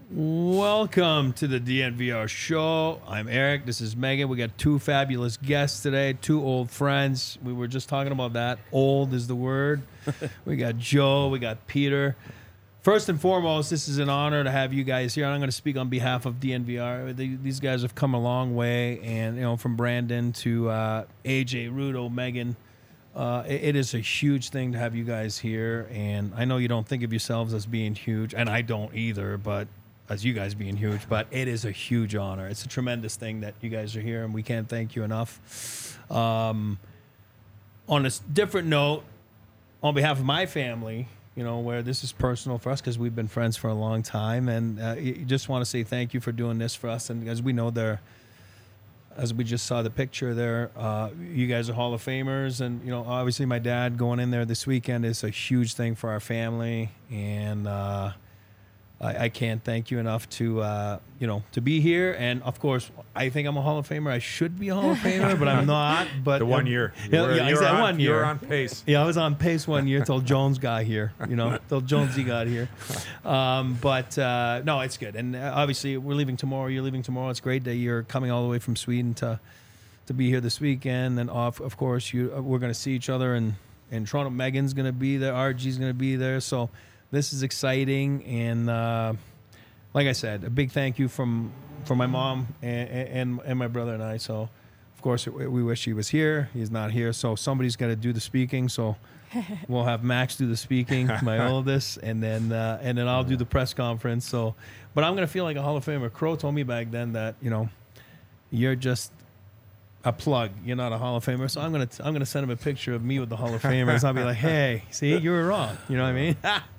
Welcome to the DNVR show. I'm Eric. This is Megan. We got two fabulous guests today, two old friends. We were just talking about that. Old is the word. We got Joe. We got Peter. First and foremost, this is an honor to have you guys here. I'm going to speak on behalf of DNVR. These guys have come a long way, and from Brandon to AJ, Rudo, Megan. It is a huge thing to have you guys here, and I know you don't think of yourselves as being huge, and I don't either, but as you guys being huge, but it is a huge honor. It's a tremendous thing that you guys are here, and we can't thank you enough. On a different note, on behalf of my family, where this is personal for us because we've been friends for a long time, and just want to say thank you for doing this for us. And as we know, as we just saw the picture there, you guys are Hall of Famers, and obviously my dad going in there this weekend is a huge thing for our family, and I can't thank you enough to be here. And of course, I think I'm a Hall of Famer. I should be a Hall of Famer, but I'm not. But the 1 year, exactly 1 year. You were on pace. Yeah, I was on pace 1 year till Jones got here. Till Jonesy got here. No, it's good. And obviously, we're leaving tomorrow. You're leaving tomorrow. It's great that you're coming all the way from Sweden to be here this weekend. And of course, we're going to see each other in Toronto. Megan's going to be there. RG's going to be there. So. This is exciting, and like I said, a big thank you from my mom and my brother and I. So, of course, we wish he was here. He's not here, so somebody's got to do the speaking. So, we'll have Max do the speaking, my oldest, and then I'll do the press conference. So, but I'm gonna feel like a Hall of Famer. Crow told me back then that you're just a plug. You're not a Hall of Famer. So I'm gonna send him a picture of me with the Hall of Famers. I'll be like, hey, see, you were wrong. You know what I mean?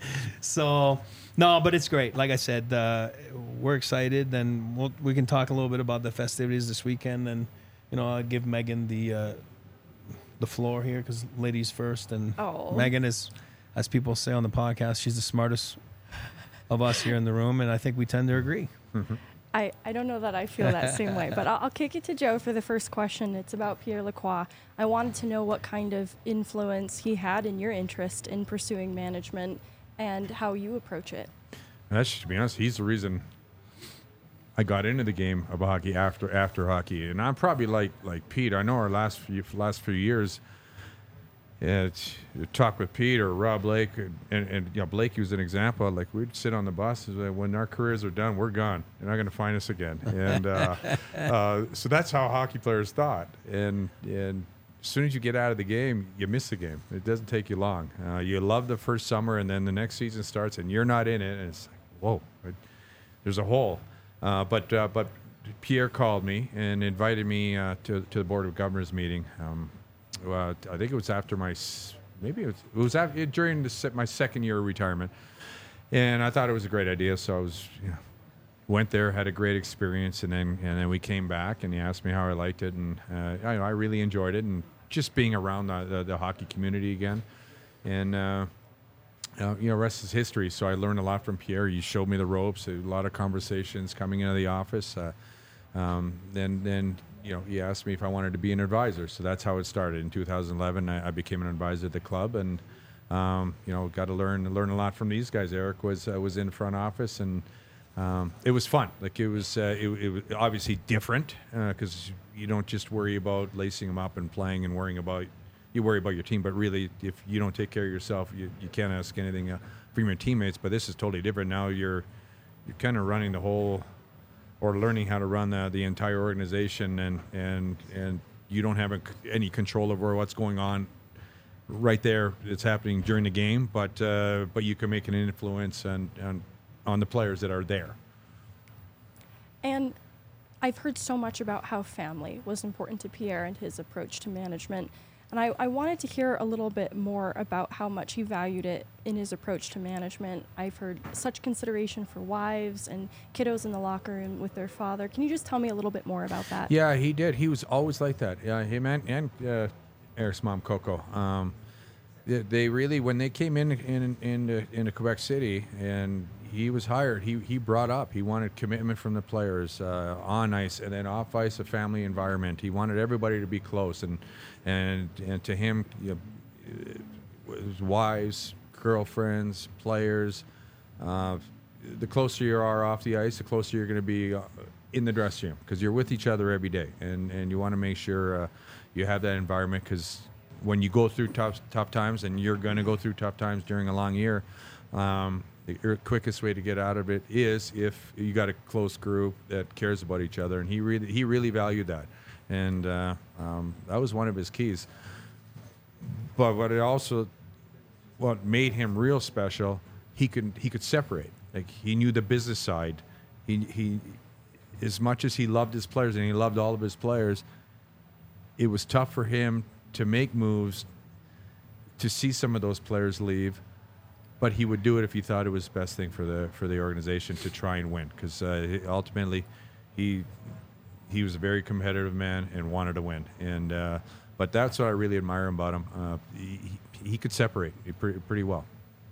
So no, but it's great. Like I said, we're excited, and we can talk a little bit about the festivities this weekend, and I'll give Megan the floor here because ladies first, and Megan is, as people say on the podcast, she's the smartest of us here in the room, and I think we tend to agree. Mm-hmm. I don't know that I feel that same way, but I'll kick it to Joe for the first question. It's about Pierre Lacroix. I wanted to know what kind of influence he had in your interest in pursuing management and how you approach it. To be honest, he's the reason I got into the game of hockey after hockey, and I'm probably like Pete. I know our last few years. Yeah, you talk with Pete or Rob Blake, and Blake was an example. Like, we'd sit on the bus, when our careers are done, we're gone. You're not going to find us again. And so that's how hockey players thought. And as soon as you get out of the game, you miss the game. It doesn't take you long. You love the first summer, and then the next season starts, and you're not in it, and it's like, whoa, there's a hole. But Pierre called me and invited me to the Board of Governors meeting. I think it was after during my second year of retirement, and I thought it was a great idea. So I went there, had a great experience, and then we came back, and he asked me how I liked it, and I really enjoyed it, and just being around the hockey community again, and rest is history. So I learned a lot from Pierre. He showed me the ropes, a lot of conversations coming into the office. Then he asked me if I wanted to be an advisor. So that's how it started. In 2011, I became an advisor at the club, and got to learn a lot from these guys. Eric was in the front office, and it was fun. Like, it was obviously different because you don't just worry about lacing them up and playing and worry about your team. But really, if you don't take care of yourself, you can't ask anything from your teammates. But this is totally different. Now you're kind of running the whole, or learning how to run the entire organization, and you don't have any control over what's going on right there. It's happening during the game, but you can make an influence on the players that are there. And I've heard so much about how family was important to Pierre and his approach to management. And I wanted to hear a little bit more about how much he valued it in his approach to management. I've heard such consideration for wives and kiddos in the locker room with their father. Can you just tell me a little bit more about that? Yeah, he did. He was always like that. Yeah, him and Eric's mom, Coco. They really, when they came into Quebec City and he was hired, he brought up, he wanted commitment from the players on ice, and then off ice, a family environment. He wanted everybody to be close, and to him, his wives, girlfriends, players, the closer you are off the ice, the closer you're going to be in the dressing room, because you're with each other every day, and you want to make sure you have that environment, because when you go through tough times, and you're going to go through tough times during a long year, the quickest way to get out of it is if you got a close group that cares about each other, and he really valued that, and that was one of his keys. But what made him real special, he could separate. Like, he knew the business side. He as much as he loved his players, and he loved all of his players, it was tough for him to make moves to see some of those players leave, but he would do it if he thought it was the best thing for the organization to try and win, because ultimately he was a very competitive man and wanted to win. And but that's what I really admire about him. He could separate pretty well.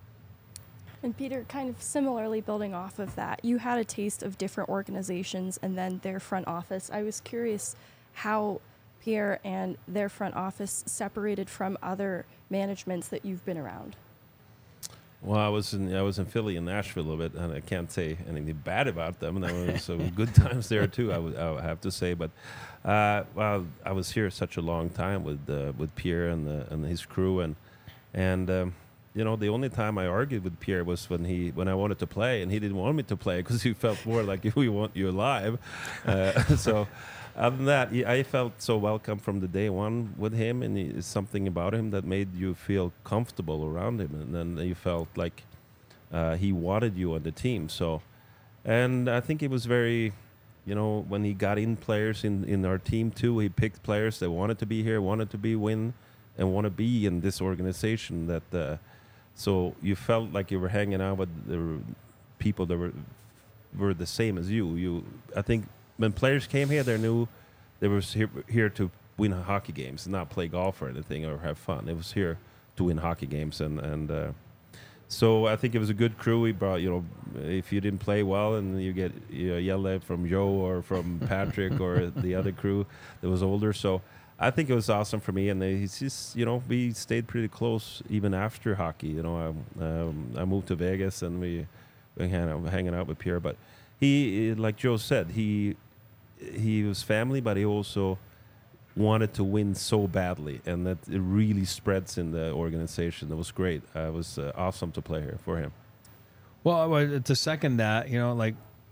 And Peter, kind of similarly building off of that, you had a taste of different organizations and then their front office. I was curious how Pierre and their front office separated from other managements that you've been around. Well, I was in Philly and Nashville a little bit, and I can't say anything bad about them. And there was some good times there too, I would have to say. But well, I was here such a long time with Pierre and his crew, and you know, the only time I argued with Pierre was when I wanted to play, and he didn't want me to play because he felt more like, we want you alive. So other than that, I felt so welcome from the day one with him, and it's something about him that made you feel comfortable around him, and then you felt like he wanted you on the team. So, and I think it was very, you know, when he got in players in our team too, he picked players that wanted to be here, wanted to win, and want to be in this organization. That so you felt like you were hanging out with the people that were the same as you. I think when players came here, they knew they were here to win hockey games, not play golf or anything or have fun. It was here to win hockey games, and so I think it was a good crew. We brought, you know, if you didn't play well and you get yelled at from Joe or from Patrick or the other crew that was older. So I think it was awesome for me, and he's just, you know, we stayed pretty close even after hockey. You know, I moved to Vegas, and we hanging out with Pierre. But he, like Joe said, he was family, but he also wanted to win so badly, and that it really spreads in the organization. It was great. It was awesome to play here for him. Well, to second that, you know, like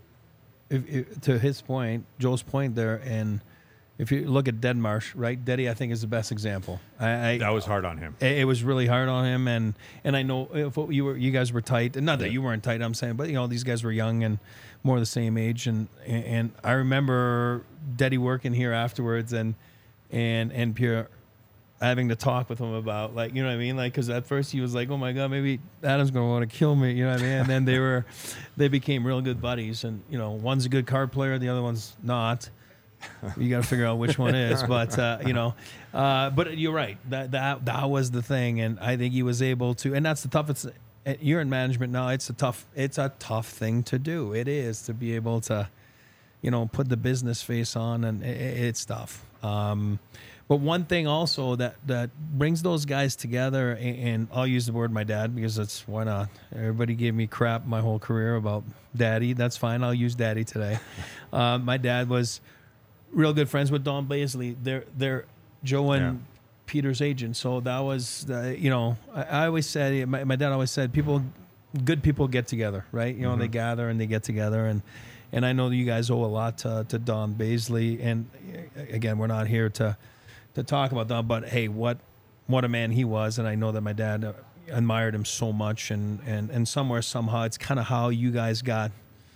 if to his point, Joe's point there, and if you look at Deadmarsh, right? Deddy, I think, is the best example. That was hard on him. It was really hard on him, and I know if you guys were tight, and not that you weren't tight, I'm saying, but you know, these guys were young and more the same age, and I remember Deddy working here afterwards, and Pierre having to talk with him about, like, you know what I mean, like, because at first he was like, oh my god, maybe Adam's gonna want to kill me, you know what I mean, and then they became real good buddies, and you know, one's a good card player, the other one's not. You got to figure out which one is, but you know, but you're right. That was the thing, and I think he was able to. And that's the toughest. You're in management now. It's a tough thing to do. It is to be able to, you know, put the business face on, and it's tough. But one thing also that brings those guys together, and I'll use the word my dad because that's why not. Everybody gave me crap my whole career about daddy. That's fine. I'll use daddy today. My dad was real good friends with Don Baisley. They're Joe and Peter's agent. So that was, you know, I always said, my dad always said, good people get together, right? You know, they gather and they get together. And I know that you guys owe a lot to Don Baisley. And again, we're not here to talk about Don, but hey, what a man he was. And I know that my dad admired him so much. And somewhere, somehow, it's kind of how you guys got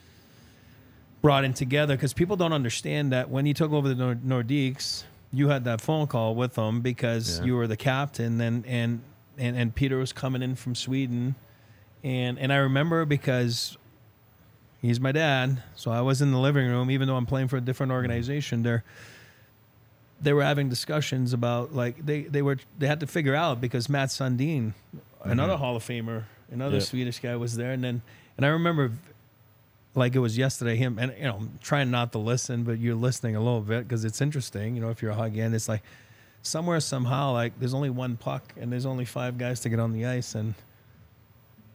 brought in together, because people don't understand that when you took over the Nordiques, you had that phone call with them because you were the captain, and Peter was coming in from Sweden, and I remember because he's my dad, so I was in the living room, even though I'm playing for a different organization. They were having discussions about, like, they had to figure out, because Matt Sundin, another Hall of Famer, another Swedish guy, was there, and I remember, like it was yesterday, him, and you know, trying not to listen, but you're listening a little bit because it's interesting. You know, if you're a hockey end, it's like somewhere, somehow, like there's only one puck and there's only 5 guys to get on the ice, and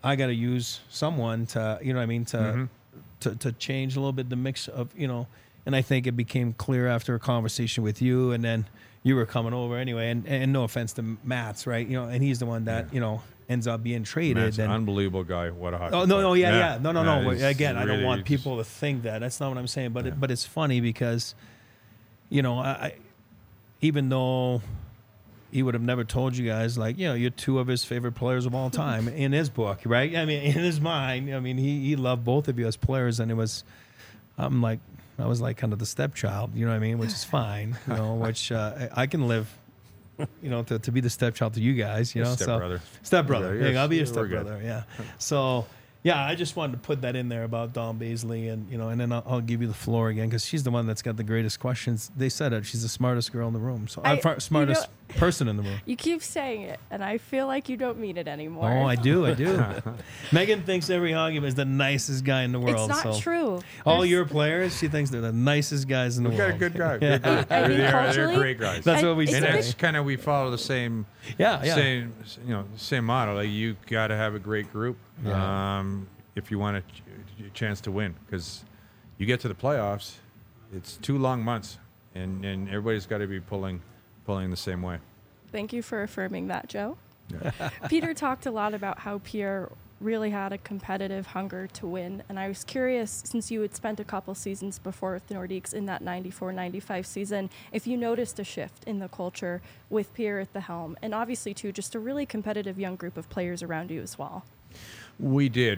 I got to use someone to, you know what I mean, to change a little bit the mix of, you know, and I think it became clear after a conversation with you, and then you were coming over anyway, and no offense to Matt's, right? You know, and he's the one that, you know, ends up being traded. Matt's an and unbelievable guy. What a hockey Oh no, player. no, yeah. No. he's Again, I don't really want just- people to think that. That's not what I'm saying. But but it's funny because, you know, I even though he would have never told you guys, like, you know, you're two of his favorite players of all time in his book, right? I mean, in his mind, I mean, he loved both of you as players, and it was, I was like kind of the stepchild, you know what I mean, which is fine, you know, which I can live. You know, to be the stepchild to you guys, you know, Stepbrother. so stepbrother. Yeah, Yeah, I'll be your we're good. stepbrother. Yeah. So, yeah, I just wanted to put that in there about Dawn Baisley, and you know, and then I'll give you the floor again because she's the one that's got the greatest questions. They said it. She's the smartest girl in the room. So smartest person in the room. You keep saying it, and I feel like you don't mean it anymore. Oh, I do. Megan thinks every hockey is the nicest guy in the world. It's not so. true. All There's- your players, she thinks they're the nicest guys in the We world. got a good guy. Yeah. Good guy. I mean, they're culturally, great guys. That's I- what we it's say. And a that's big- kind of, we follow the same, Yeah. same, you know, same model. Like, you got to have a great group if you want a chance to win, because you get to the playoffs, it's 2 long months, and everybody's got to be pulling the same way. Thank you for affirming that, Joe. Peter talked a lot about how Pierre really had a competitive hunger to win, and I was curious, since you had spent a couple seasons before with the Nordiques in that 94-95 season, if you noticed a shift in the culture with Pierre at the helm, and obviously too just a really competitive young group of players around you as well. We did.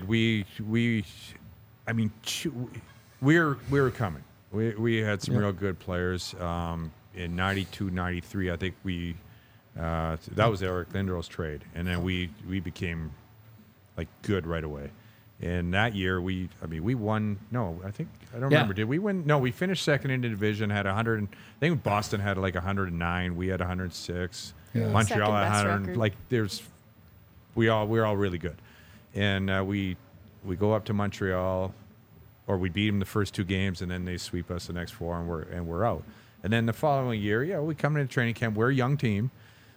I mean, we were coming. We had some real good players. In 92, 93, I think that was Eric Lindros trade. And then we became like good right away. And that year we won. No, I don't remember. Did we win? No, we finished second in the division, had 100. I think Boston had like 109. We had 106. Yeah. Montreal Second had best 100. record. Like we're all really good. And we go up to Montreal, or we beat them the first 2 games, and then they sweep us the next 4, and we're out. And then the following year, we come into training camp. We're a young team.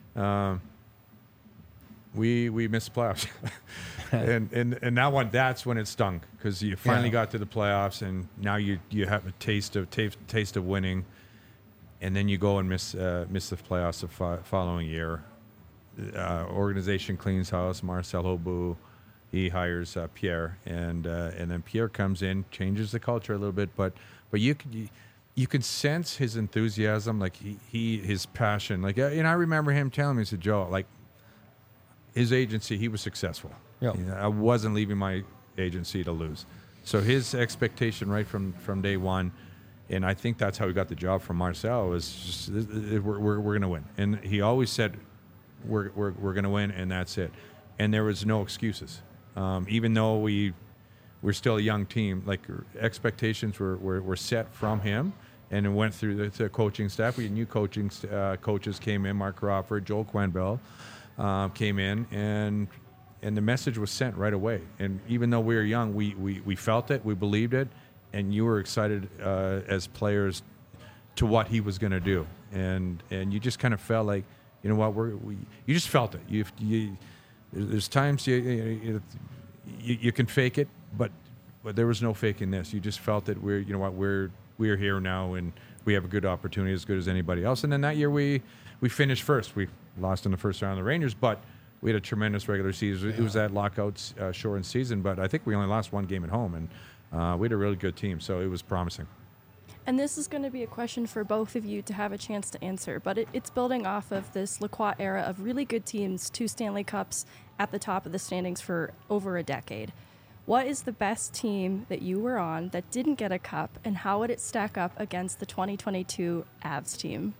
We missed the playoffs, and that's when it stung, because you finally got to the playoffs, and now you have a taste of winning, and then you go and miss the playoffs the following year. Organization cleans house. Marcel Hobu, he hires Pierre, and then Pierre comes in, changes the culture a little bit, but you can sense his enthusiasm, like his passion. Like, and I remember him telling me, he said, Joe, like, his agency, he was successful. Yep. You know, I wasn't leaving my agency to lose. So his expectation right from day one, and I think that's how he got the job from Marcel, was just, we're going to win. And he always said, we're going to win, and that's it. And there was no excuses. Even though we're still a young team, like, expectations were set from him, and it went through the coaching staff. We had new coaches came in, Mark Crawford, Joel Quenville came in, and the message was sent right away. And even though we were young, we felt it, we believed it, and you were excited as players to what he was going to do. And you just kind of felt like, you know what, you just felt it. There's times you can fake it, but there was no faking this. You just felt that we're here now, and we have a good opportunity, as good as anybody else. And then that year we finished first. We lost in the first round of the Rangers, but we had a tremendous regular season. It was that lockout shortened season, but I think we only lost 1 game at home, and we had a really good team, so it was promising. And this is going to be a question for both of you to have a chance to answer, but it's building off of this Lacroix era of really good teams, 2 Stanley Cups at the top of the standings for over a decade. What is the best team that you were on that didn't get a cup, and how would it stack up against the 2022 Avs team?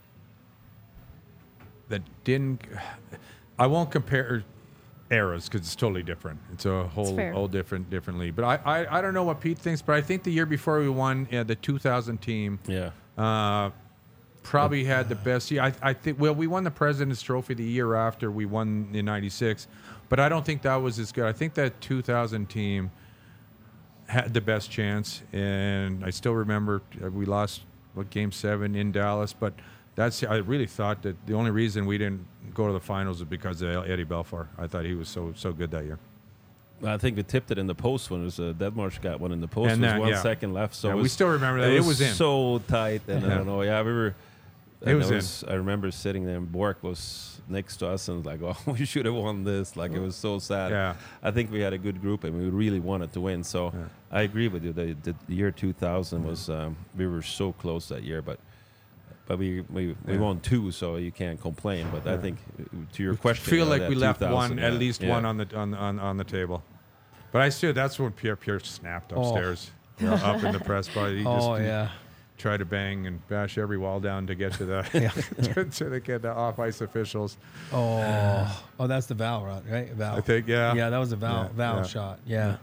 That didn't. I won't compare eras because it's totally different. It's a whole different league. But I don't know what Pete thinks, but I think the year before we won, the 2000 team probably had the best year. I think, well, we won the President's Trophy the year after we won in '96, but I don't think that was as good. I think that 2000 team had the best chance, and I still remember we lost Game 7 in Dallas, but I really thought that the only reason we didn't go to the finals is because of Eddie Belfour. I thought he was so good that year. I think we tipped it in the post when it was Deadmarsh got one in the post. And There was that, 1 yeah. second left, so Yeah, it we was, still remember that. It was in. so tight, and I Yeah. don't know. Yeah, we were. It and was I remember sitting there, and Bork was next to us, and like, oh, we should have won this. Like, it was so sad. Yeah. I think we had a good group, and we really wanted to win. So Yeah. I agree with you. The year 2000 was we were so close that year, but we Yeah. won 2, so you can't complain. But I Yeah. think to your question, feel like that we left 2000, one, at yeah, least yeah. one on the table. But I still, that's when Pierre snapped upstairs, up in the press bar. He Oh just yeah. tried to bang and bash every wall down to get to the to get the off ice officials. Oh, that's the Val run, right? Val. I think, yeah. Yeah, that was a Val Yeah. shot. Yeah.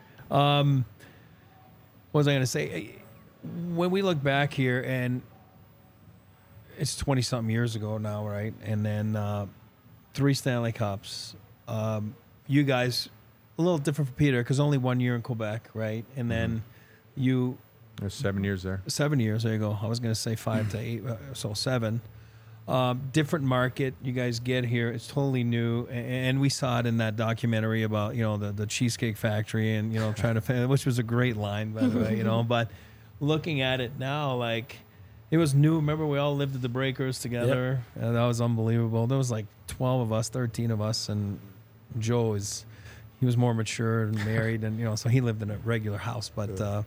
What was I going to say? When we look back here, and it's 20-something years ago now, right? And then 3 Stanley Cups. You guys, a little different for Peter, because only 1 year in Quebec, right? And then you... There's 7 years there. 7 years. There you go. I was going to say 5 to 8, so 7. Different market. You guys get here. It's totally new, and we saw it in that documentary about the Cheesecake Factory and trying to, which was a great line by the way. But looking at it now, like it was new. Remember, we all lived at the Breakers together, and that was unbelievable. There was like 12 of us, 13 of us, and Joe he was more mature and married, and so he lived in a regular house, but.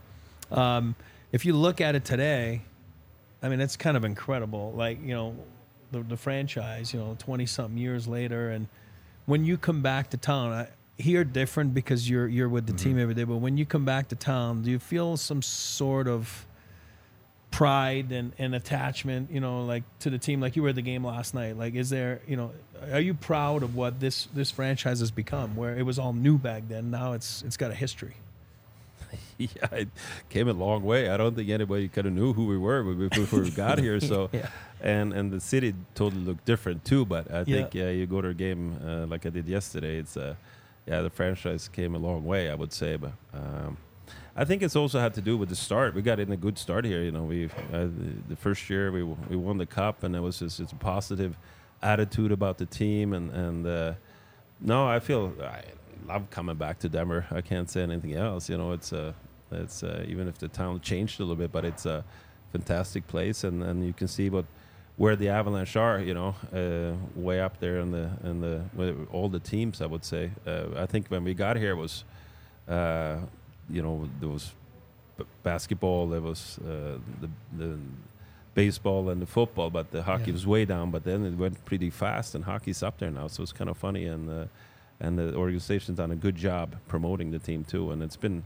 If you look at it today, I mean, it's kind of incredible. Like, the franchise, 20-something years later. And when you come back to town, here different because you're with the team every day. But when you come back to town, do you feel some sort of pride and attachment, like to the team? Like you were at the game last night. Like, is there, are you proud of what this franchise has become, where it was all new back then? Now it's got a history. Yeah, it came a long way. I don't think anybody kind of knew who we were before we got here. So, Yeah. and the city totally looked different too. But I think you go to a game like I did yesterday. It's the franchise came a long way, I would say. But I think it's also had to do with the start. We got in a good start here. We the first year we won the cup, and it was just it's a positive attitude about the team. And no, I feel. I love coming back to Denver. I can't say anything else. It's even if the town changed a little bit, but it's a fantastic place, and you can see where the Avalanche are. Way up there in the with all the teams. I would say. I think when we got here was, there was basketball, there was the baseball and the football, but the hockey was way down. But then it went pretty fast, and hockey's up there now, so it's kind of funny. And the organization's done a good job promoting the team too. And it's been,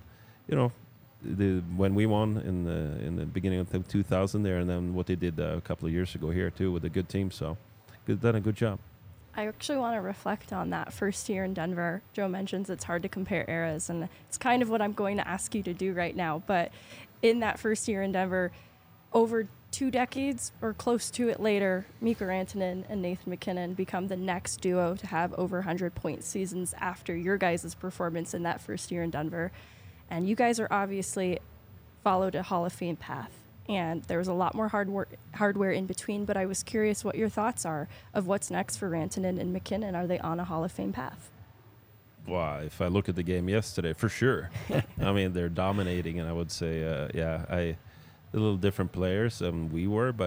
when we won in the beginning of 2000 there, and then what they did a couple of years ago here too with a good team. So, done a good job. I actually want to reflect on that first year in Denver. Joe mentions it's hard to compare eras, and it's kind of what I'm going to ask you to do right now. But in that first year in Denver, over 2 decades or close to it later, Mikko Rantanen and Nathan MacKinnon become the next duo to have over 100-point seasons after your guys' performance in that first year in Denver. And you guys are obviously followed a Hall of Fame path. And there was a lot more hardware in between, but I was curious what your thoughts are of what's next for Rantanen and MacKinnon. Are they on a Hall of Fame path? Well, if I look at the game yesterday, for sure. I mean, they're dominating, and I would say, a little different players than we were, but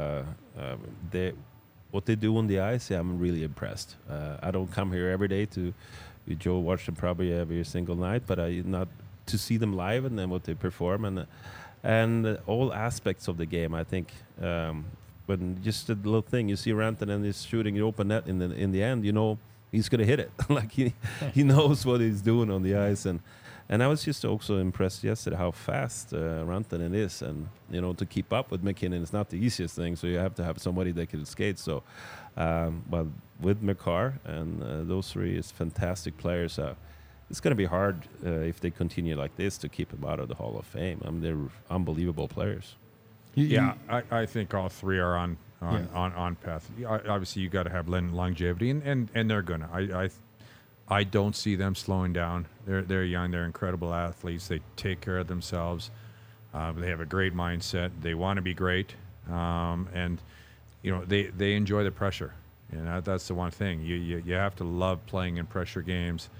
what they do on the ice, I'm really impressed. I don't come here every day Joe watch them probably every single night, but not to see them live and then what they perform and all aspects of the game. I think when just a little thing you see Rantanen is shooting an open net in the end, he's gonna hit it. Like he knows what he's doing on the ice. And I was just also impressed yesterday how fast Rantanen is, and to keep up with MacKinnon is not the easiest thing. So you have to have somebody that can skate. So, but with Makar and those three is fantastic players. It's going to be hard if they continue like this to keep them out of the Hall of Fame. I mean, they're unbelievable players. I think all three are on path. Obviously, you got to have longevity, and they're gonna. I don't see them slowing down. They're young. They're incredible athletes. They take care of themselves. They have a great mindset. They want to be great, and they enjoy the pressure. That's the one thing. You have to love playing in pressure games.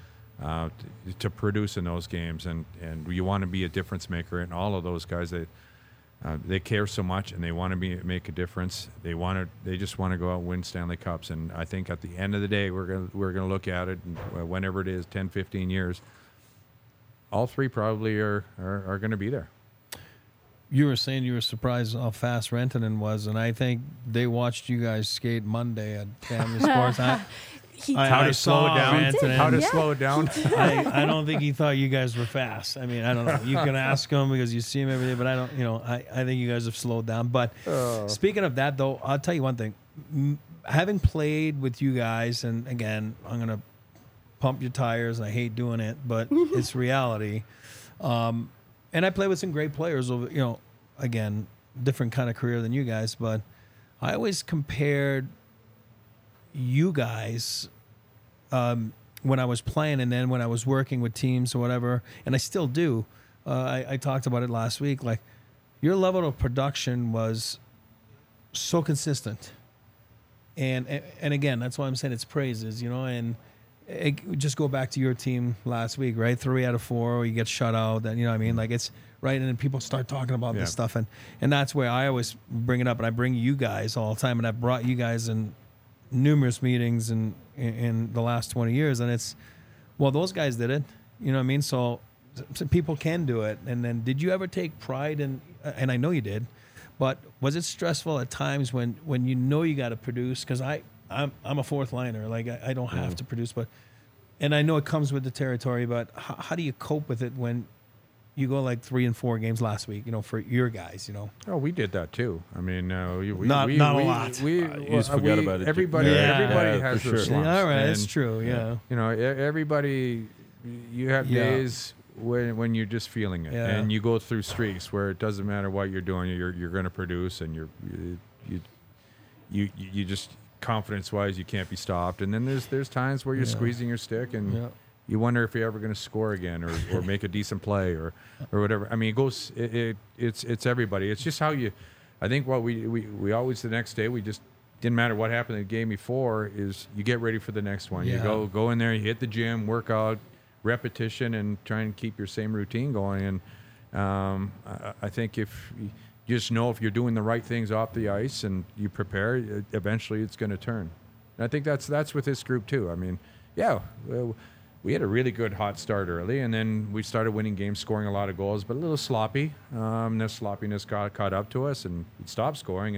to produce in those games, and you want to be a difference maker. And all of those guys, they care so much, and they want to make a difference. They just want to go out and win Stanley Cups. And I think at the end of the day, we're gonna look at it, and whenever it is, 10, 15 years, all three probably are going to be there. You were saying you were surprised how fast Rantanen was, and I think they watched you guys skate Monday at Family Sports. How to slow it down? How to slow it down? I don't think he thought you guys were fast. I mean, I don't know. You can ask him because you see him every day, but I don't. I think you guys have slowed down. But speaking of that, though, I'll tell you one thing. Having played with you guys, and again, I'm gonna pump your tires. I hate doing it, but it's reality. And I play with some great players over, again, different kind of career than you guys, but I always compared you guys when I was playing and then when I was working with teams or whatever, and I still do. I talked about it last week. Like, your level of production was so consistent. And again, that's why I'm saying it's praises, and just go back to your team last week, right? 3 out of 4, you get shut out. Then, what I mean? Like, it's right. And then people start talking about this stuff. And that's where I always bring it up. And I bring you guys all the time. And I've brought you guys in numerous meetings in the last 20 years. And it's, well, those guys did it. You know what I mean? So people can do it. And then did you ever take pride in, and I know you did, but was it stressful at times when you got to produce? Because I'm a fourth liner. Like, I don't have to produce, and I know it comes with the territory, but how do you cope with it when you go like 3 and 4 games last week, for your guys, Oh, we did that too. I mean, not a lot. You just forgot about it. Everybody has their slumps. Yeah, all right, and, that's true, yeah. Everybody, you have days when you're just feeling it, and you go through streaks where it doesn't matter what you're doing, you're going to produce, and you just, confidence-wise, you can't be stopped. And then there's times where you're squeezing your stick, and you wonder if you're ever going to score again or make a decent play or whatever. I mean, it goes. It's everybody. It's just how you. I think what we always, the next day, we just didn't matter what happened in the game before, is you get ready for the next one. Yeah. You go in there, you hit the gym, work out, repetition, and try and keep your same routine going. And I think if you just know if you're doing the right things off the ice and you prepare, eventually it's going to turn. And I think that's with this group too. I mean, we had a really good hot start early, and then we started winning games, scoring a lot of goals, but a little sloppy. The sloppiness got caught up to us, and we stopped scoring,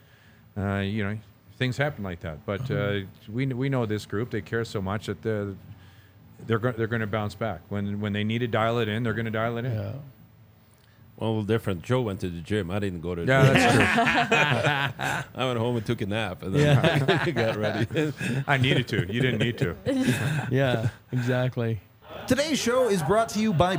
and things happen like that. But we know this group; they care so much that they're going to bounce back. When they need to dial it in, they're going to dial it in. Yeah. Well, a little different. Joe went to the gym. I didn't go to the Yeah, gym. that's true. I went home and took a nap, and then got ready. I needed to. You didn't need to. Yeah, exactly. Today's show is brought to you by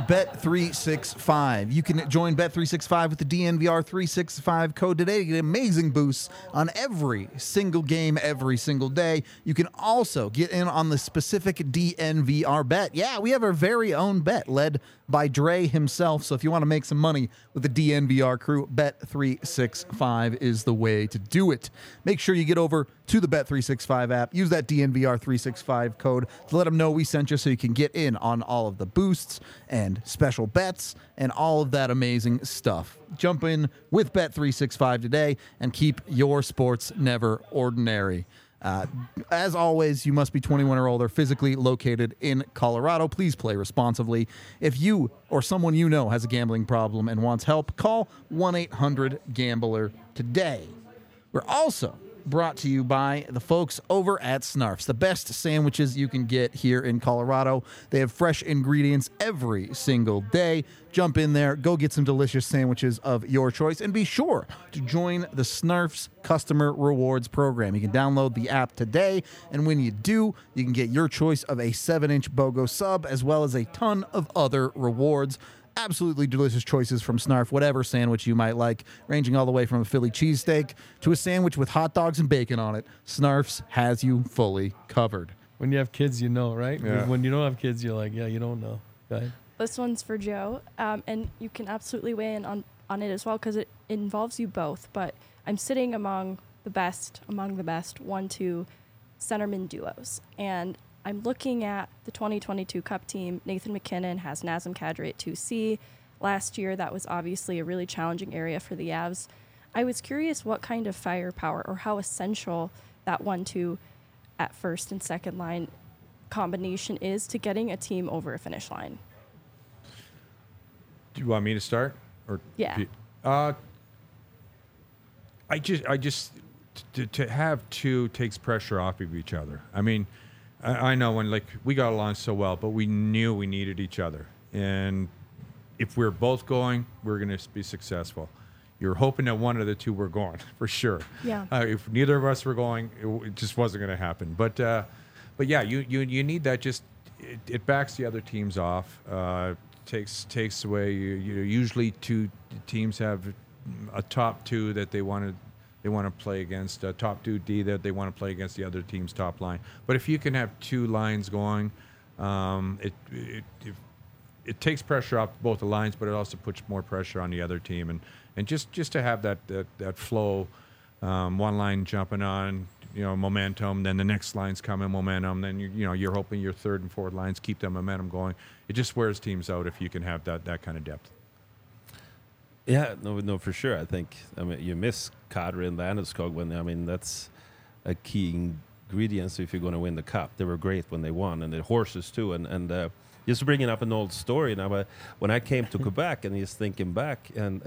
Bet365. You can join Bet365 with the DNVR 365 code today to get amazing boosts on every single game, every single day. You can also get in on the specific DNVR bet. Yeah, we have our very own bet led by Dre himself. So if you want to make some money with the DNVR crew, Bet365 is the way to do it. Make sure you get over to the Bet365 app. Use that DNVR 365 code to let them know we sent you so you can get in on all of the boosts and special bets and all of that amazing stuff. Jump in with Bet365 today and keep your sports never ordinary. As always, you must be 21 or older, physically located in Colorado. Please play responsibly. If you or someone you know has a gambling problem and wants help, call 1-800-GAMBLER today. We're also brought to you by the folks over at Snarfs, the best sandwiches you can get here in Colorado. They have fresh ingredients every single day. Jump in there, go get some delicious sandwiches of your choice, and be sure to join the Snarfs Customer Rewards Program. You can download the app today, and when you do, you can get your choice of a 7-inch BOGO sub, as well as a ton of other rewards. Absolutely delicious choices from Snarf, whatever sandwich you might like, ranging all the way from a Philly cheesesteak to a sandwich with hot dogs and bacon on it. Snarf's has you fully covered. When you have kids, you know, right? Yeah. When you don't have kids, you're like, yeah, you don't know. Go ahead. This one's for Joe, and you can absolutely weigh in on it as well because it involves you both. But I'm sitting among the best 1-2 centerman duos, and I'm looking at the 2022 Cup team. Nathan McKinnon has Nazem Kadri at 2C. Last year, that was obviously a really challenging area for the Avs. I was curious what kind of firepower or how essential that 1-2 at first and second line combination is to getting a team over a finish line. Do you want me to start? Or Yeah. I just to have two takes pressure off of each other. I mean, I know when like we got along so well, but we knew we needed each other, and if we're both going, we're going to be successful. You're hoping that one of the two were going for sure. Yeah. If neither of us were going, it just wasn't going to happen. But yeah, you need that. Just it backs the other teams off. Takes away. Usually two teams have a top two that they want to play against, a top 2D that they want to play against the other team's top line. But if you can have two lines going, it takes pressure off both the lines, but it also puts more pressure on the other team. And just to have that flow, one line jumping on, momentum, then the next line's coming, momentum, then you're hoping your third and fourth lines keep that momentum going. It just wears teams out if you can have that kind of depth. Yeah, no, for sure. I think you miss Kadri and Landeskog that's a key ingredient. So if you're going to win the cup, they were great when they won, and the horses too. And just bringing up an old story now. When I came to Quebec, and just thinking back, and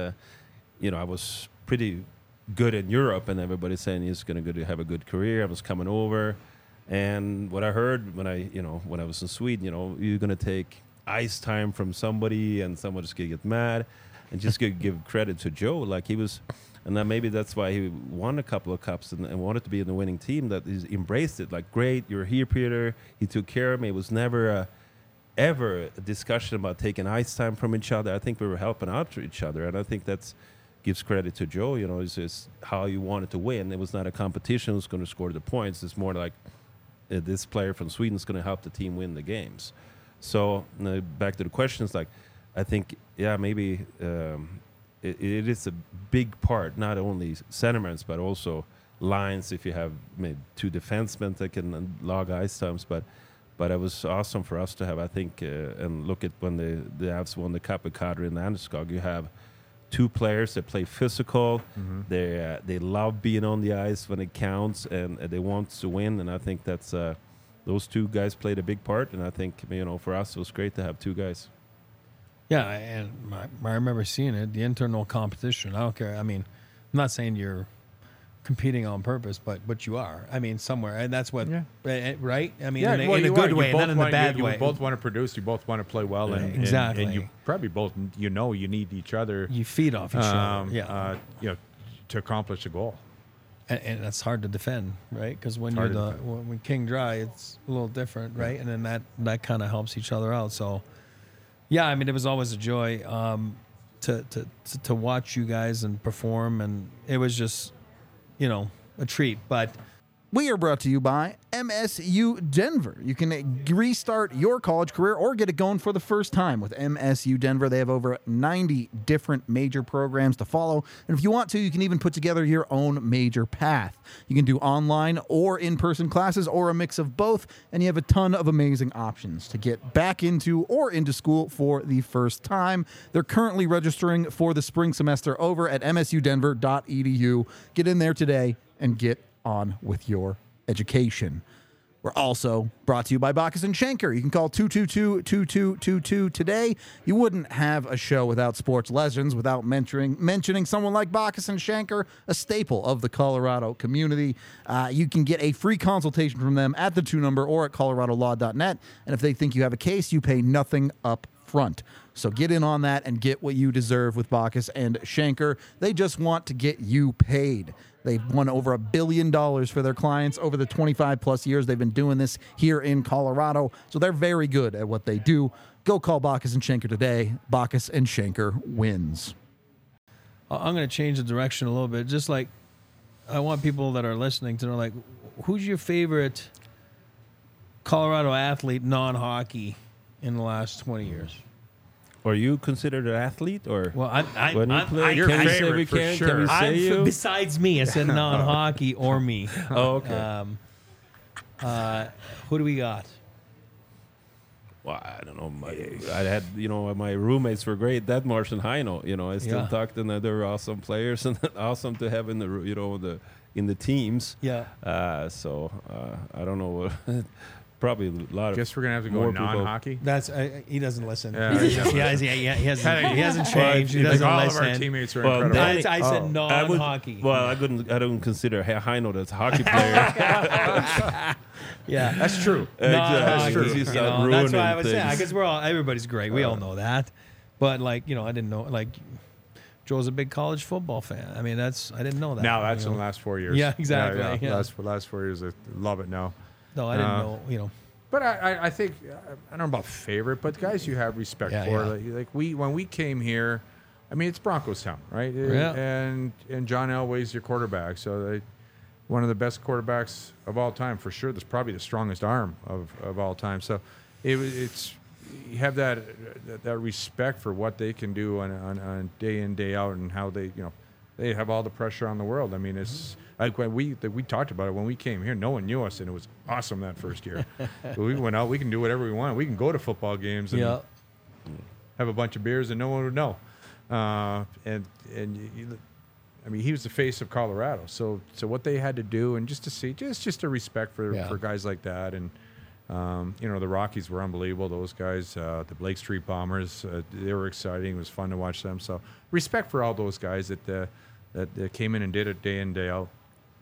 I was pretty good in Europe, and everybody saying he's going to have a good career. I was coming over, and what I heard when I was in Sweden, you're going to take ice time from somebody, and someone's going to get mad. And just to give credit to Joe, like he was, and then maybe that's why he won a couple of cups and wanted to be in the winning team, that he's embraced it. Like, great, you're here, Peter. He took care of me. It was never ever a discussion about taking ice time from each other. I think we were helping out to each other, and I think that's gives credit to Joe. It's just how you wanted to win. It was not a competition who's going to score the points. It's more like this player from Sweden is going to help the team win the games. So back to the questions, like, I think, maybe it is a big part, not only sentiments, but also lines. If you have maybe two defensemen that can log ice times, but it was awesome for us to have, I think, and look at when the Avs won the Cup with Kadri and Landeskog, you have two players that play physical. Mm-hmm. They love being on the ice when it counts, and they want to win. And I think that's those two guys played a big part. And I think for us, it was great to have two guys. Yeah, and I remember seeing it, the internal competition. I don't care. I mean, I'm not saying you're competing on purpose, but you are. I mean, somewhere, and that's what, right? I mean, in a good way, not in the bad way. You both want to produce. You both want to play well, and exactly. And you probably both, you need each other. You feed off each other. To accomplish a goal. And that's hard to defend, right? Because when when King dry, it's a little different, right? And then that kind of helps each other out. So. Yeah, I mean, it was always a joy to watch you guys and perform, and it was just, a treat. But we are brought to you by MSU Denver. You can restart your college career or get it going for the first time with MSU Denver. They have over 90 different major programs to follow. And if you want to, you can even put together your own major path. You can do online or in-person classes or a mix of both. And you have a ton of amazing options to get back into or into school for the first time. They're currently registering for the spring semester over at msudenver.edu. Get in there today and get on with your education. We're also brought to you by Bacchus and Schenker. You can call 222-2222 today. You wouldn't have a show without sports legends, without mentioning someone like Bacchus and Schenker, a staple of the Colorado community. You can get a free consultation from them at the 2 number or at coloradolaw.net. And if they think you have a case, you pay nothing up front. So get in on that and get what you deserve with Bacchus and Schenker. They just want to get you paid. They've won over $1 billion for their clients over the 25-plus years they've been doing this here in Colorado. So they're very good at what they do. Go call Bacchus and Schenker today. Bacchus and Schenker wins. I'm going to change the direction a little bit. Just like I want people that are listening to know, like, who's your favorite Colorado athlete, non-hockey, in the last 20 years? Are you considered an athlete, or well, when you play? Your Can you say favorite we for can? sure. Can we say you? Besides me, I said non-hockey or me. Oh, okay. Who do we got? Well, I don't know. I had, my roommates were great. Detmars and Heino, I still Yeah. talked, and they were awesome players and awesome to have in in the teams. Yeah. So I don't know. Probably a lot of. Guess we're gonna have to go more people. non-hockey. That's he doesn't listen. Yeah, he, he doesn't he hasn't changed. He Like doesn't all listen. of our teammates are Well, incredible. I said I would- non-hockey. Well, I don't consider Heino that's a hockey player. yeah, That's true. non-hockey. true. He's You not know, that's why I ruining was saying. I things. guess everybody's great. We all know that. But I didn't know. Joe's a big college football fan. I mean, I didn't know that. Now that's you in know. the last 4 years. Yeah, exactly, yeah. Last 4 years, I love it now. No, I didn't Uh, know. But I think I don't know about favorite, but guys you have respect Yeah, for. yeah. Like when we came here, I mean it's Broncos town, right? Yeah. And John Elway's your quarterback, so one of the best quarterbacks of all time for sure. That's probably the strongest arm of all time. So it's you have that respect for what they can do on day in day out and how they they have all the pressure on the world. I mean it's. Like when we talked about it when we came here, no one knew us, and it was awesome that first year. But we went out, we can do whatever we want. We can go to football games and Yeah. have a bunch of beers, and no one would know. I mean, he was the face of Colorado. So what they had to do, and just to see, just a respect Yeah. for guys like that, and the Rockies were unbelievable. Those guys, the Blake Street Bombers, they were exciting. It was fun to watch them. So respect for all those guys that came in and did it day in day out.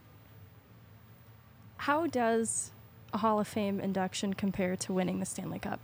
How does a Hall of Fame induction compare to winning the Stanley Cup?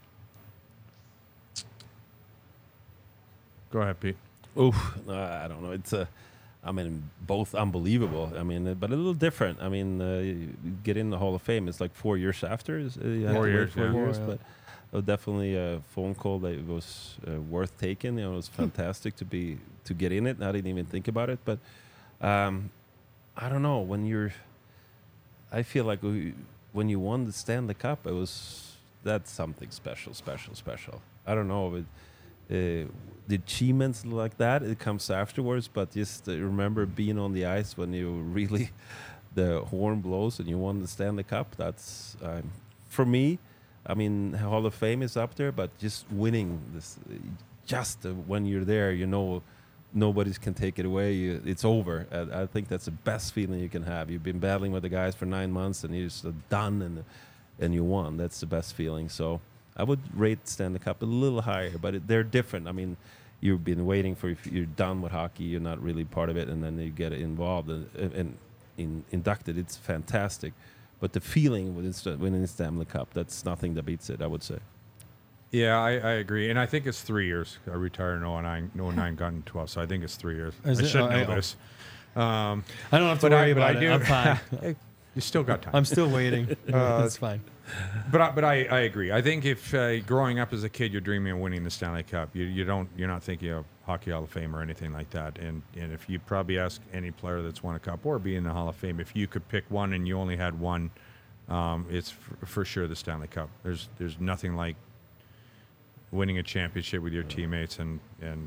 Go ahead, Pete. Oof, I don't know. It's both unbelievable. I mean, but a little different. I mean, you get in the Hall of Fame. It's like 4 years after. You have 4 to wait years, 4 yeah. years, 4, yeah. but definitely a phone call that was worth taking. It was fantastic to get in it. I didn't even think about it, but I don't know. I feel like when you won the Stanley Cup, that's something special. I don't know. The achievements like that, it comes afterwards, but just remember being on the ice when you really, the horn blows and you won the Stanley Cup. That's, for me, I mean, Hall of Fame is up there, but just winning this, when you're there, nobody can take it away. It's over. I think that's the best feeling you can have. You've been battling with the guys for 9 months, and you're just done, and you won. That's the best feeling. So I would rate Stanley Cup a little higher, but they're different. I mean, you've been waiting for, if you're done with hockey, you're not really part of it, and then you get involved and inducted. It's fantastic. But the feeling winning the Stanley Cup, that's nothing that beats it, I would say. Yeah, I agree, and I think it's 3 years. I retired in 09, got in 12, so I think it's 3 years. Is I it? should Oh, know I- this. I don't have to worry about it. I'm fine. Hey, you still got time. I'm still waiting. It's fine. But I agree. I think if growing up as a kid, you're dreaming of winning the Stanley Cup, you're not thinking of Hockey Hall of Fame or anything like that. And if you probably ask any player that's won a cup or be in the Hall of Fame, if you could pick one and you only had one, it's for sure the Stanley Cup. There's nothing like winning a championship with your teammates and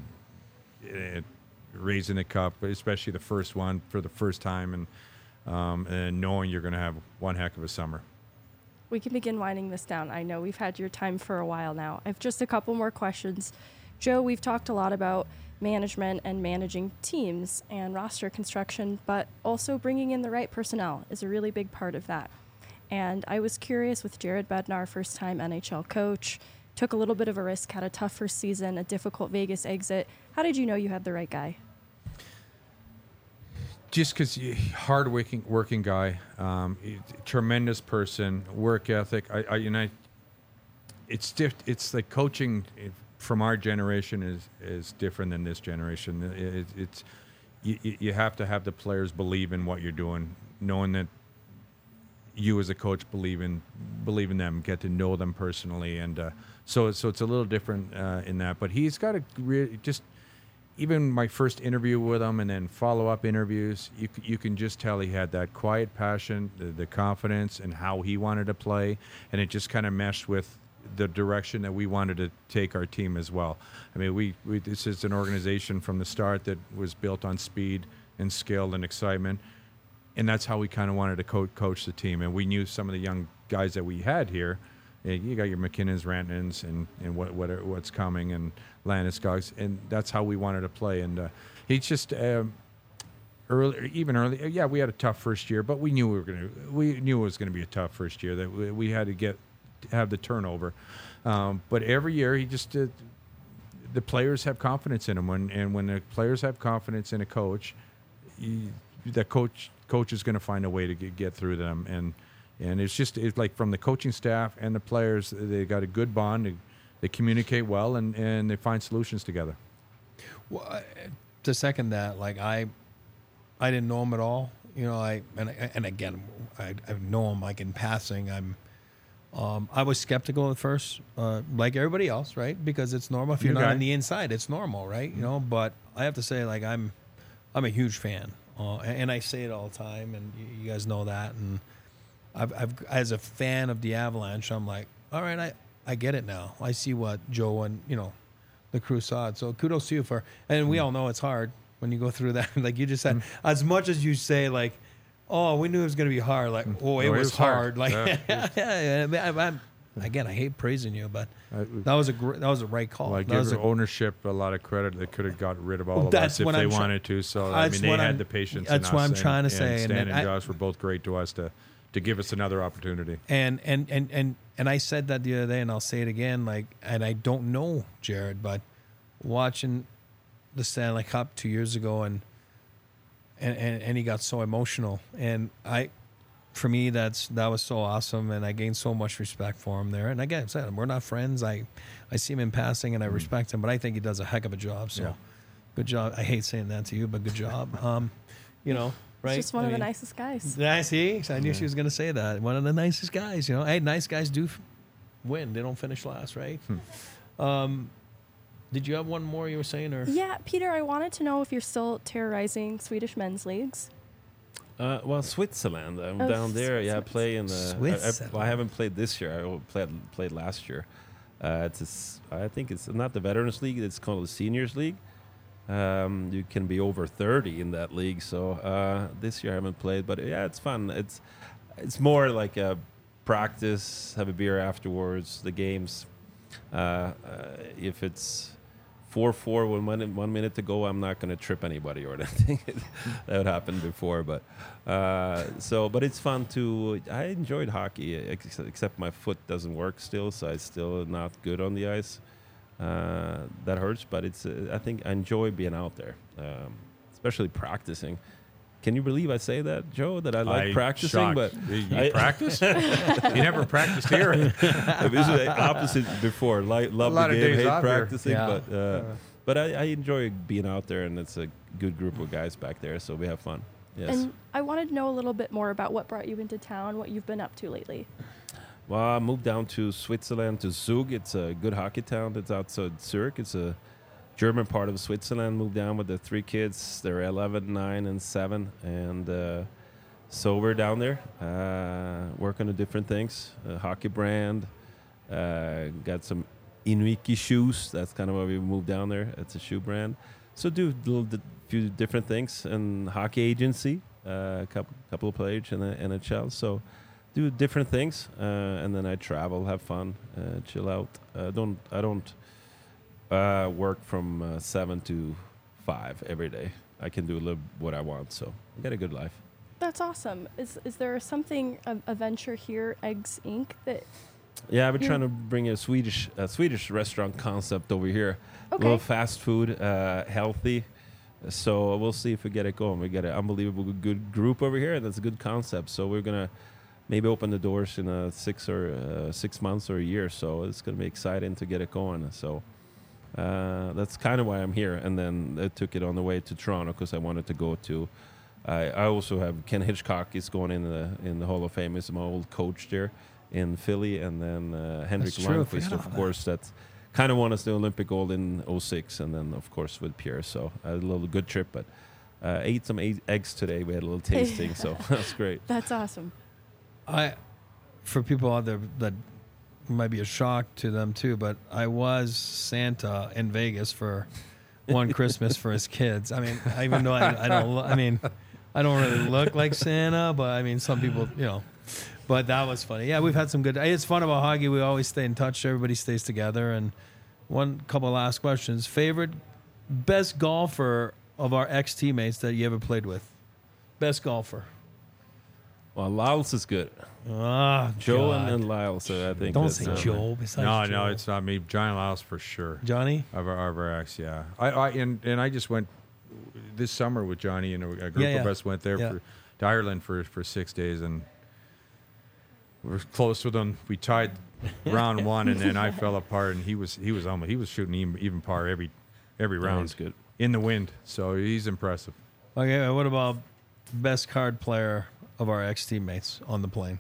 raising the cup, especially the first one for the first time, and knowing you're going to have one heck of a summer. We can begin winding this down. I know we've had your time for a while now. I have just a couple more questions. Joe, we've talked a lot about management and managing teams and roster construction, but also bringing in the right personnel is a really big part of that. And I was curious with Jared Bednar, first-time NHL coach, took a little bit of a risk, had a tough first season, a difficult Vegas exit. How did you know you had the right guy? Just because hard-working guy, tremendous person, work ethic. It's like coaching from our generation is different than this generation. You have to have the players believe in what you're doing, knowing that you as a coach believe in them, get to know them personally, and so it's a little different in that. But he's got a really just. Even my first interview with him and then follow-up interviews, you can just tell he had that quiet passion, the confidence, and how he wanted to play, and it just kind of meshed with the direction that we wanted to take our team as well. I mean, we this is an organization from the start that was built on speed and skill and excitement. and that's how we kind of wanted to coach the team. And we knew some of the young guys that we had here. You got your McKinnons, Rantanens, and what's coming, and Landeskog's, and that's how we wanted to play. And he's just early. Yeah, we had a tough first year, but we knew it was gonna be a tough first year. That we had to have the turnover. But every year he just the players have confidence in him. When the players have confidence in a coach, the coach is going to find a way to get through them. And it's like from the coaching staff and the players, they got a good bond. They communicate well and they find solutions together. Well, to second that, like I didn't know him at all. You know, I know him like in passing. I was skeptical at first, like everybody else, right? Because it's normal. If you're not on the inside, it's normal, right? You know, but I have to say, like, I'm a huge fan, and I say it all the time, and you guys know that. And I've as a fan of the Avalanche, I'm like, all right, I get it now. I see what Joe and the crew saw it. So kudos to you for. And we all know it's hard when you go through that. Like you just said, as much as you say, like, oh, we knew it was going to be hard. Like, it was hard. Like, yeah. Again, I hate praising you, but that was a right call. Well, I give ownership a lot of credit. They could have got rid of all of us if they wanted to. So I mean, they had the patience. That's what I'm trying to say. Stan and Josh were both great to us to give us another opportunity. And I said that the other day, and I'll say it again. Like, and I don't know Jared, but watching the Stanley Cup 2 years ago, and he got so emotional, and for me, that was so awesome, and I gained so much respect for him there. And again, I said, we're not friends. I see him in passing, and I respect him, but I think he does a heck of a job. So, good job. I hate saying that to you, but good job. Right? He's just one of the nicest guys. I see. I knew she was going to say that. One of the nicest guys. Hey, nice guys do win. They don't finish last, right? Did you have one more you were saying, or? Yeah, Peter, I wanted to know if you're still terrorizing Swedish men's leagues. Well, Switzerland. I'm down there. Yeah, I play in the. I haven't played this year. I played last year. I think it's not the Veterans League. It's called the Seniors League. You can be over 30 in that league. So this year I haven't played, but yeah, it's fun. It's more like a practice, have a beer afterwards, the games. If it's 4-4 with 1 minute to go, I'm not going to trip anybody or anything. That happened before, but but it's fun too. I enjoyed hockey, except my foot doesn't work still, so I'm still not good on the ice. That hurts, but I think I enjoy being out there, especially practicing. Can you believe I say that, Joe? That I like practicing, shocked. But you practice? You never practiced here. This is the opposite before. Love the game, hate practicing, yeah. but I enjoy being out there, and it's a good group of guys back there, so we have fun. Yes. And I wanted to know a little bit more about what brought you into town, what you've been up to lately. Well, I moved down to Switzerland, to Zug. It's a good hockey town that's outside Zurich. It's a German part of Switzerland. Moved down with the 3 kids. They're 11, 9, and 7. And so we're down there working on different things. A hockey brand. Got some Inuiki shoes. That's kind of why we moved down there. It's a shoe brand. So do few different things. And hockey agency. A couple of players in the NHL. So do different things, and then I travel, have fun, chill out. I don't work from 7 to 5 every day. I can do a little what I want, so I got a good life. That's awesome. Is there something, a venture here, Eggs Inc., that? Yeah, I've been trying to bring a Swedish restaurant concept over here. Okay. A little fast food, healthy. So we'll see if we get it going. We got an unbelievable good group over here, and that's a good concept. So we're gonna maybe open the doors in 6 months or a year. So it's going to be exciting to get it going. So that's kind of why I'm here. And then I took it on the way to Toronto because I wanted to go to. I also have Ken Hitchcock is going in the Hall of Fame. He's my old coach there in Philly, and then Henrik Lundqvist, of course. That's kind of won us the Olympic gold in 2006, and then of course with Pierre. So I had a little good trip, but ate some eggs today. We had a little tasting, so that's great. That's awesome. For people out there that might be a shock to them too, but I was Santa in Vegas for one Christmas for his kids. I mean, even though I don't. I mean, I don't really look like Santa, but I mean, some people, you know. But that was funny. Yeah, we've had some good. It's fun about hockey. We always stay in touch. Everybody stays together. And one couple of last questions. Favorite, best golfer of our ex teammates that you ever played with? Best golfer. Well, Lyles is good. Ah, Joe God. and Lyles, I think. Don't that's, say Joe. Besides No, Joe. it's not me. Johnny Lyles for sure. Johnny. Of our ex, yeah. And I just went this summer with Johnny, and a group Yeah, of yeah. us went there Yeah. to Ireland for 6 days, and we were close with him. We tied round one, and then I fell apart, and he was almost, he was shooting even par every round. He's good. In the wind, so he's impressive. Okay, what about best card player of our ex teammates on the plane?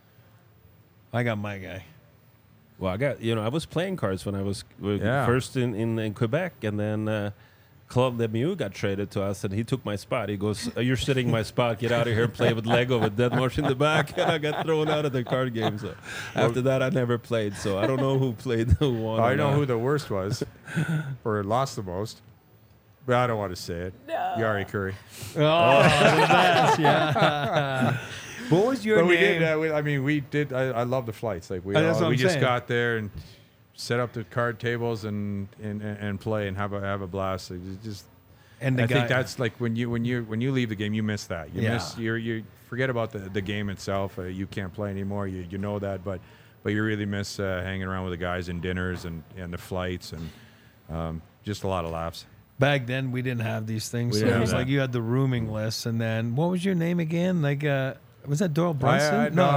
I got my guy. Well, I was playing cards when I was Yeah. first in Quebec, and then Claude Lemieux got traded to us, and he took my spot. He goes, "You're sitting my spot. Get out of here and play with Lego with Dead Marsh in the back." And I got thrown out of the card game. So after that, I never played. So I don't know who played, who won. I or know not. who the worst was, or lost the most, but I don't want to say it. No. Yari Curry. Oh, the best, yeah. What was your But name? we did. I love the flights. Like That's what we I'm just saying. got there and set up the card tables and play and have a blast. Like, it's just. And the I guy, think that's like when you leave the game, you miss that. Yeah. You forget about the game itself. You can't play anymore. You know that, but you really miss hanging around with the guys and dinners and the flights and just a lot of laughs. back then we didn't have these things. We So didn't it have was that. like you had the rooming list, and then what was your name again? Like, was that Doyle Brunson? No.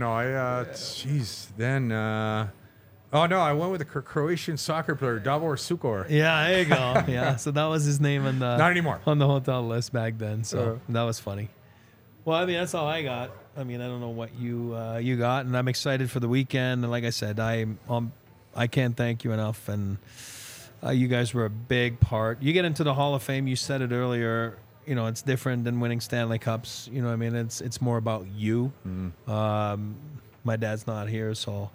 Jeez. Then. I went with the Croatian soccer player Davor Sukor. Yeah, there you go. Yeah, so that was his name on the Not anymore. on the hotel list back then. So that was funny. Well, I mean, that's all I got. I mean, I don't know what you got, and I'm excited for the weekend. And like I said, I can't thank you enough, and you guys were a big part. You get into the Hall of Fame. You said it earlier. You know, it's different than winning Stanley Cups. You know what I mean? It's more about you. My dad's not here, so.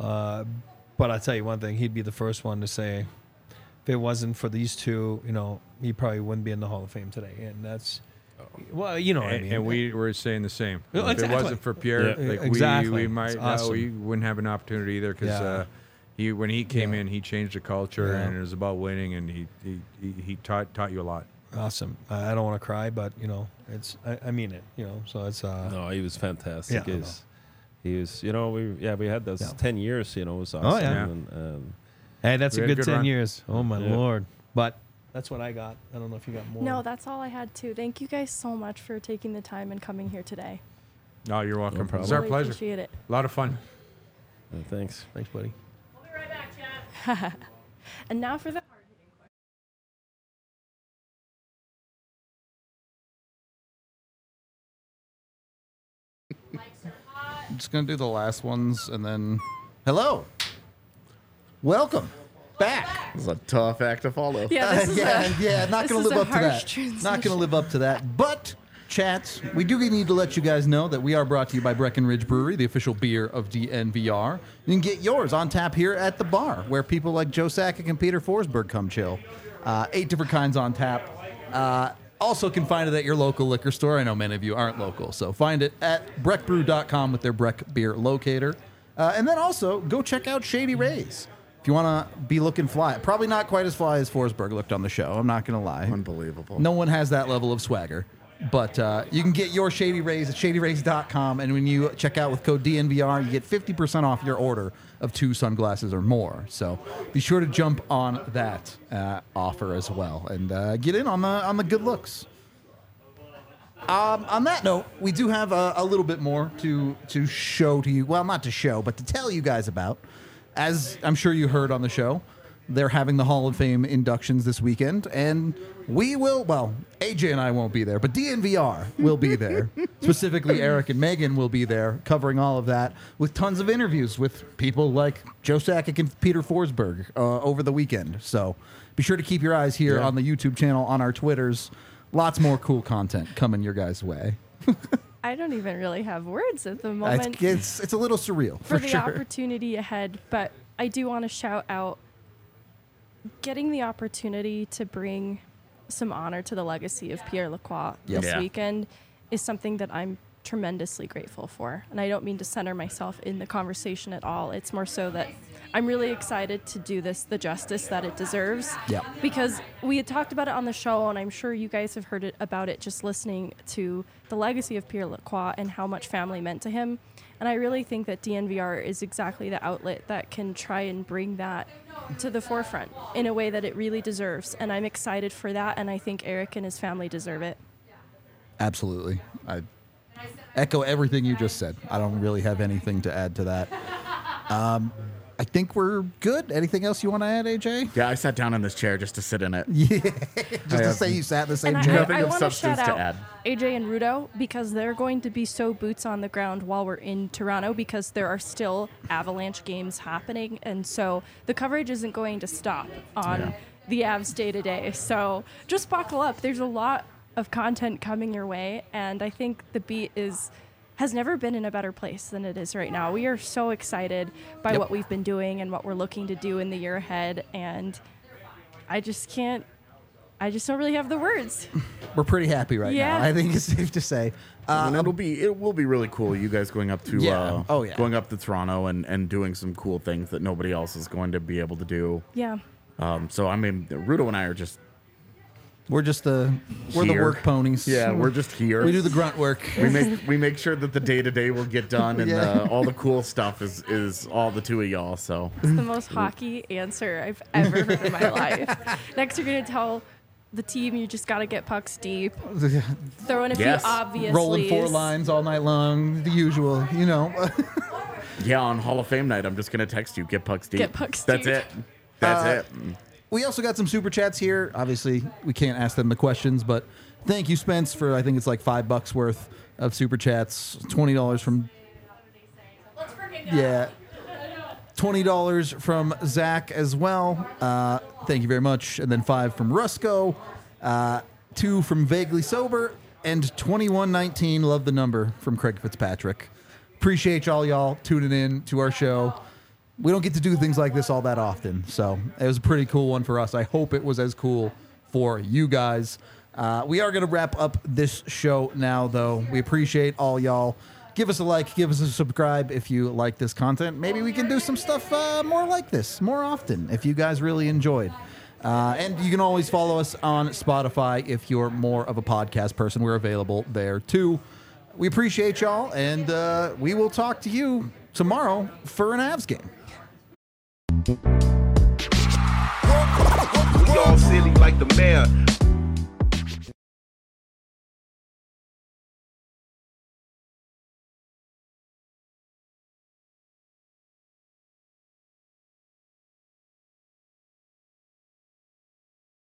But I'll tell you one thing, he'd be the first one to say, if it wasn't for these two, you know, he probably wouldn't be in the Hall of Fame today. And that's, well, you know what I mean. And we were saying the same. Well, If exactly. it wasn't for Pierre, Yeah. like Exactly. we might It's awesome. we wouldn't have an opportunity either because Yeah. when he came Yeah. in, he changed the culture Yeah. and it was about winning, and he taught you a lot. Awesome. I don't want to cry, but, you know, I mean it, you know, so it's, No, he was fantastic. Yeah, I He was, you know, we had those Yeah. 10 years, you know, it was awesome. yeah. And, hey, that's We a had a good good 10 run. years. Oh, my Yeah. Lord. But that's what I got. I don't know if you got more. No, that's all I had too. Thank you guys so much for taking the time and coming here today. No, you're welcome. No problem. It's our Really pleasure. appreciate it. A lot of fun. thanks. Thanks, buddy. And now for the hard-hitting question. I'm just gonna do the last ones and then. Hello. Welcome back. This is a tough act to follow. Yeah, this is Not this gonna is live a up to harsh that. transition. Not gonna live up to that. But chats, we do need to let you guys know that we are brought to you by Breckenridge Brewery, the official beer of DNVR. You can get yours on tap here at the bar, where people like Joe Sakic and Peter Forsberg come chill. 8 different kinds on tap. Also can find it at your local liquor store. I know many of you aren't local, so find it at breckbrew.com with their Breck Beer Locator. And then also, go check out Shady Rays. If you want to be looking fly. Probably not quite as fly as Forsberg looked on the show, I'm not going to lie. Unbelievable. No one has that level of swagger. But you can get your Shady Rays at shadyrays.com, and when you check out with code DNVR, you get 50% off your order of 2 sunglasses or more. So be sure to jump on that offer as well and get in on the good looks. On that note, we do have a little bit more to show to you. Well, not to show, but to tell you guys about. As I'm sure you heard on the show, they're having the Hall of Fame inductions this weekend, and we will, well, AJ and I won't be there, but DNVR will be there. Specifically, Eric and Megan will be there covering all of that with tons of interviews with people like Joe Sakic and Peter Forsberg over the weekend. So be sure to keep your eyes here on the YouTube channel, on our Twitters. Lots more cool content coming your guys' way. I don't even really have words at the moment It's a little surreal, for for the sure. opportunity ahead, but I do want to shout out getting the opportunity to bring some honor to the legacy of Pierre Lacroix Yep. this Yeah. weekend is something that I'm tremendously grateful for. And I don't mean to center myself in the conversation at all. It's more so that I'm really excited to do this the justice that it deserves. Yeah. Because we had talked about it on the show, and I'm sure you guys have heard about it just listening to the legacy of Pierre Lacroix and how much family meant to him. And I really think that DNVR is exactly the outlet that can try and bring that to the forefront in a way that it really deserves. And I'm excited for that, and I think Eric and his family deserve it. Absolutely. I echo everything you just said. I don't really have anything to add to that. I think we're good. Anything else you want to add, AJ? Yeah, I sat down in this chair just to sit in it. Yeah. Just to say you sat in the same And chair. Nothing I of want to substance shout to out add. AJ and Rudo because they're going to be so boots on the ground while we're in Toronto because there are still Avalanche games happening. And so the coverage isn't going to stop on the Avs day to day. So just buckle up. There's a lot of content coming your way. And I think the beat has never been in a better place than it is right now. We are so excited by what we've been doing and what we're looking to do in the year ahead. And I just don't really have the words. We're pretty happy right Yeah. now. I think it's safe to say. And it will be really cool. You guys going up to going up to Toronto and doing some cool things that nobody else is going to be able to do. Yeah. So I mean, Rudo and I are just We're the work ponies. Yeah, we're just here. We do the grunt work. We make sure that the day-to-day will get done, and all the cool stuff is all the two of y'all. So It's the most hockey answer I've ever heard in my life. Next, you're going to tell the team you just got to get pucks deep. Throw in a Yes. few obvious Rolling four leads. lines all night long. The usual, you know. yeah, on Hall of Fame night, I'm just gonna text you, get pucks deep. Get pucks That's deep. it. That's it. We also got some super chats here. Obviously, we can't ask them the questions, but thank you, Spence, for I think it's like $5 worth of super chats. $20 from $20 from Zach as well. Thank you very much. And then 5 from Rusco, 2 from Vaguely Sober, and 2119. Love the number from Craig Fitzpatrick. Appreciate y'all tuning in to our show. We don't get to do things like this all that often, so it was a pretty cool one for us. I hope it was as cool for you guys. We are going to wrap up this show now, though. We appreciate all y'all. Give us a like, give us a subscribe if you like this content. Maybe we can do some stuff more like this more often if you guys really enjoyed. And you can always follow us on Spotify if you're more of a podcast person. We're available there, too. We appreciate y'all, and we will talk to you tomorrow for an Avs game. We all silly like the mayor.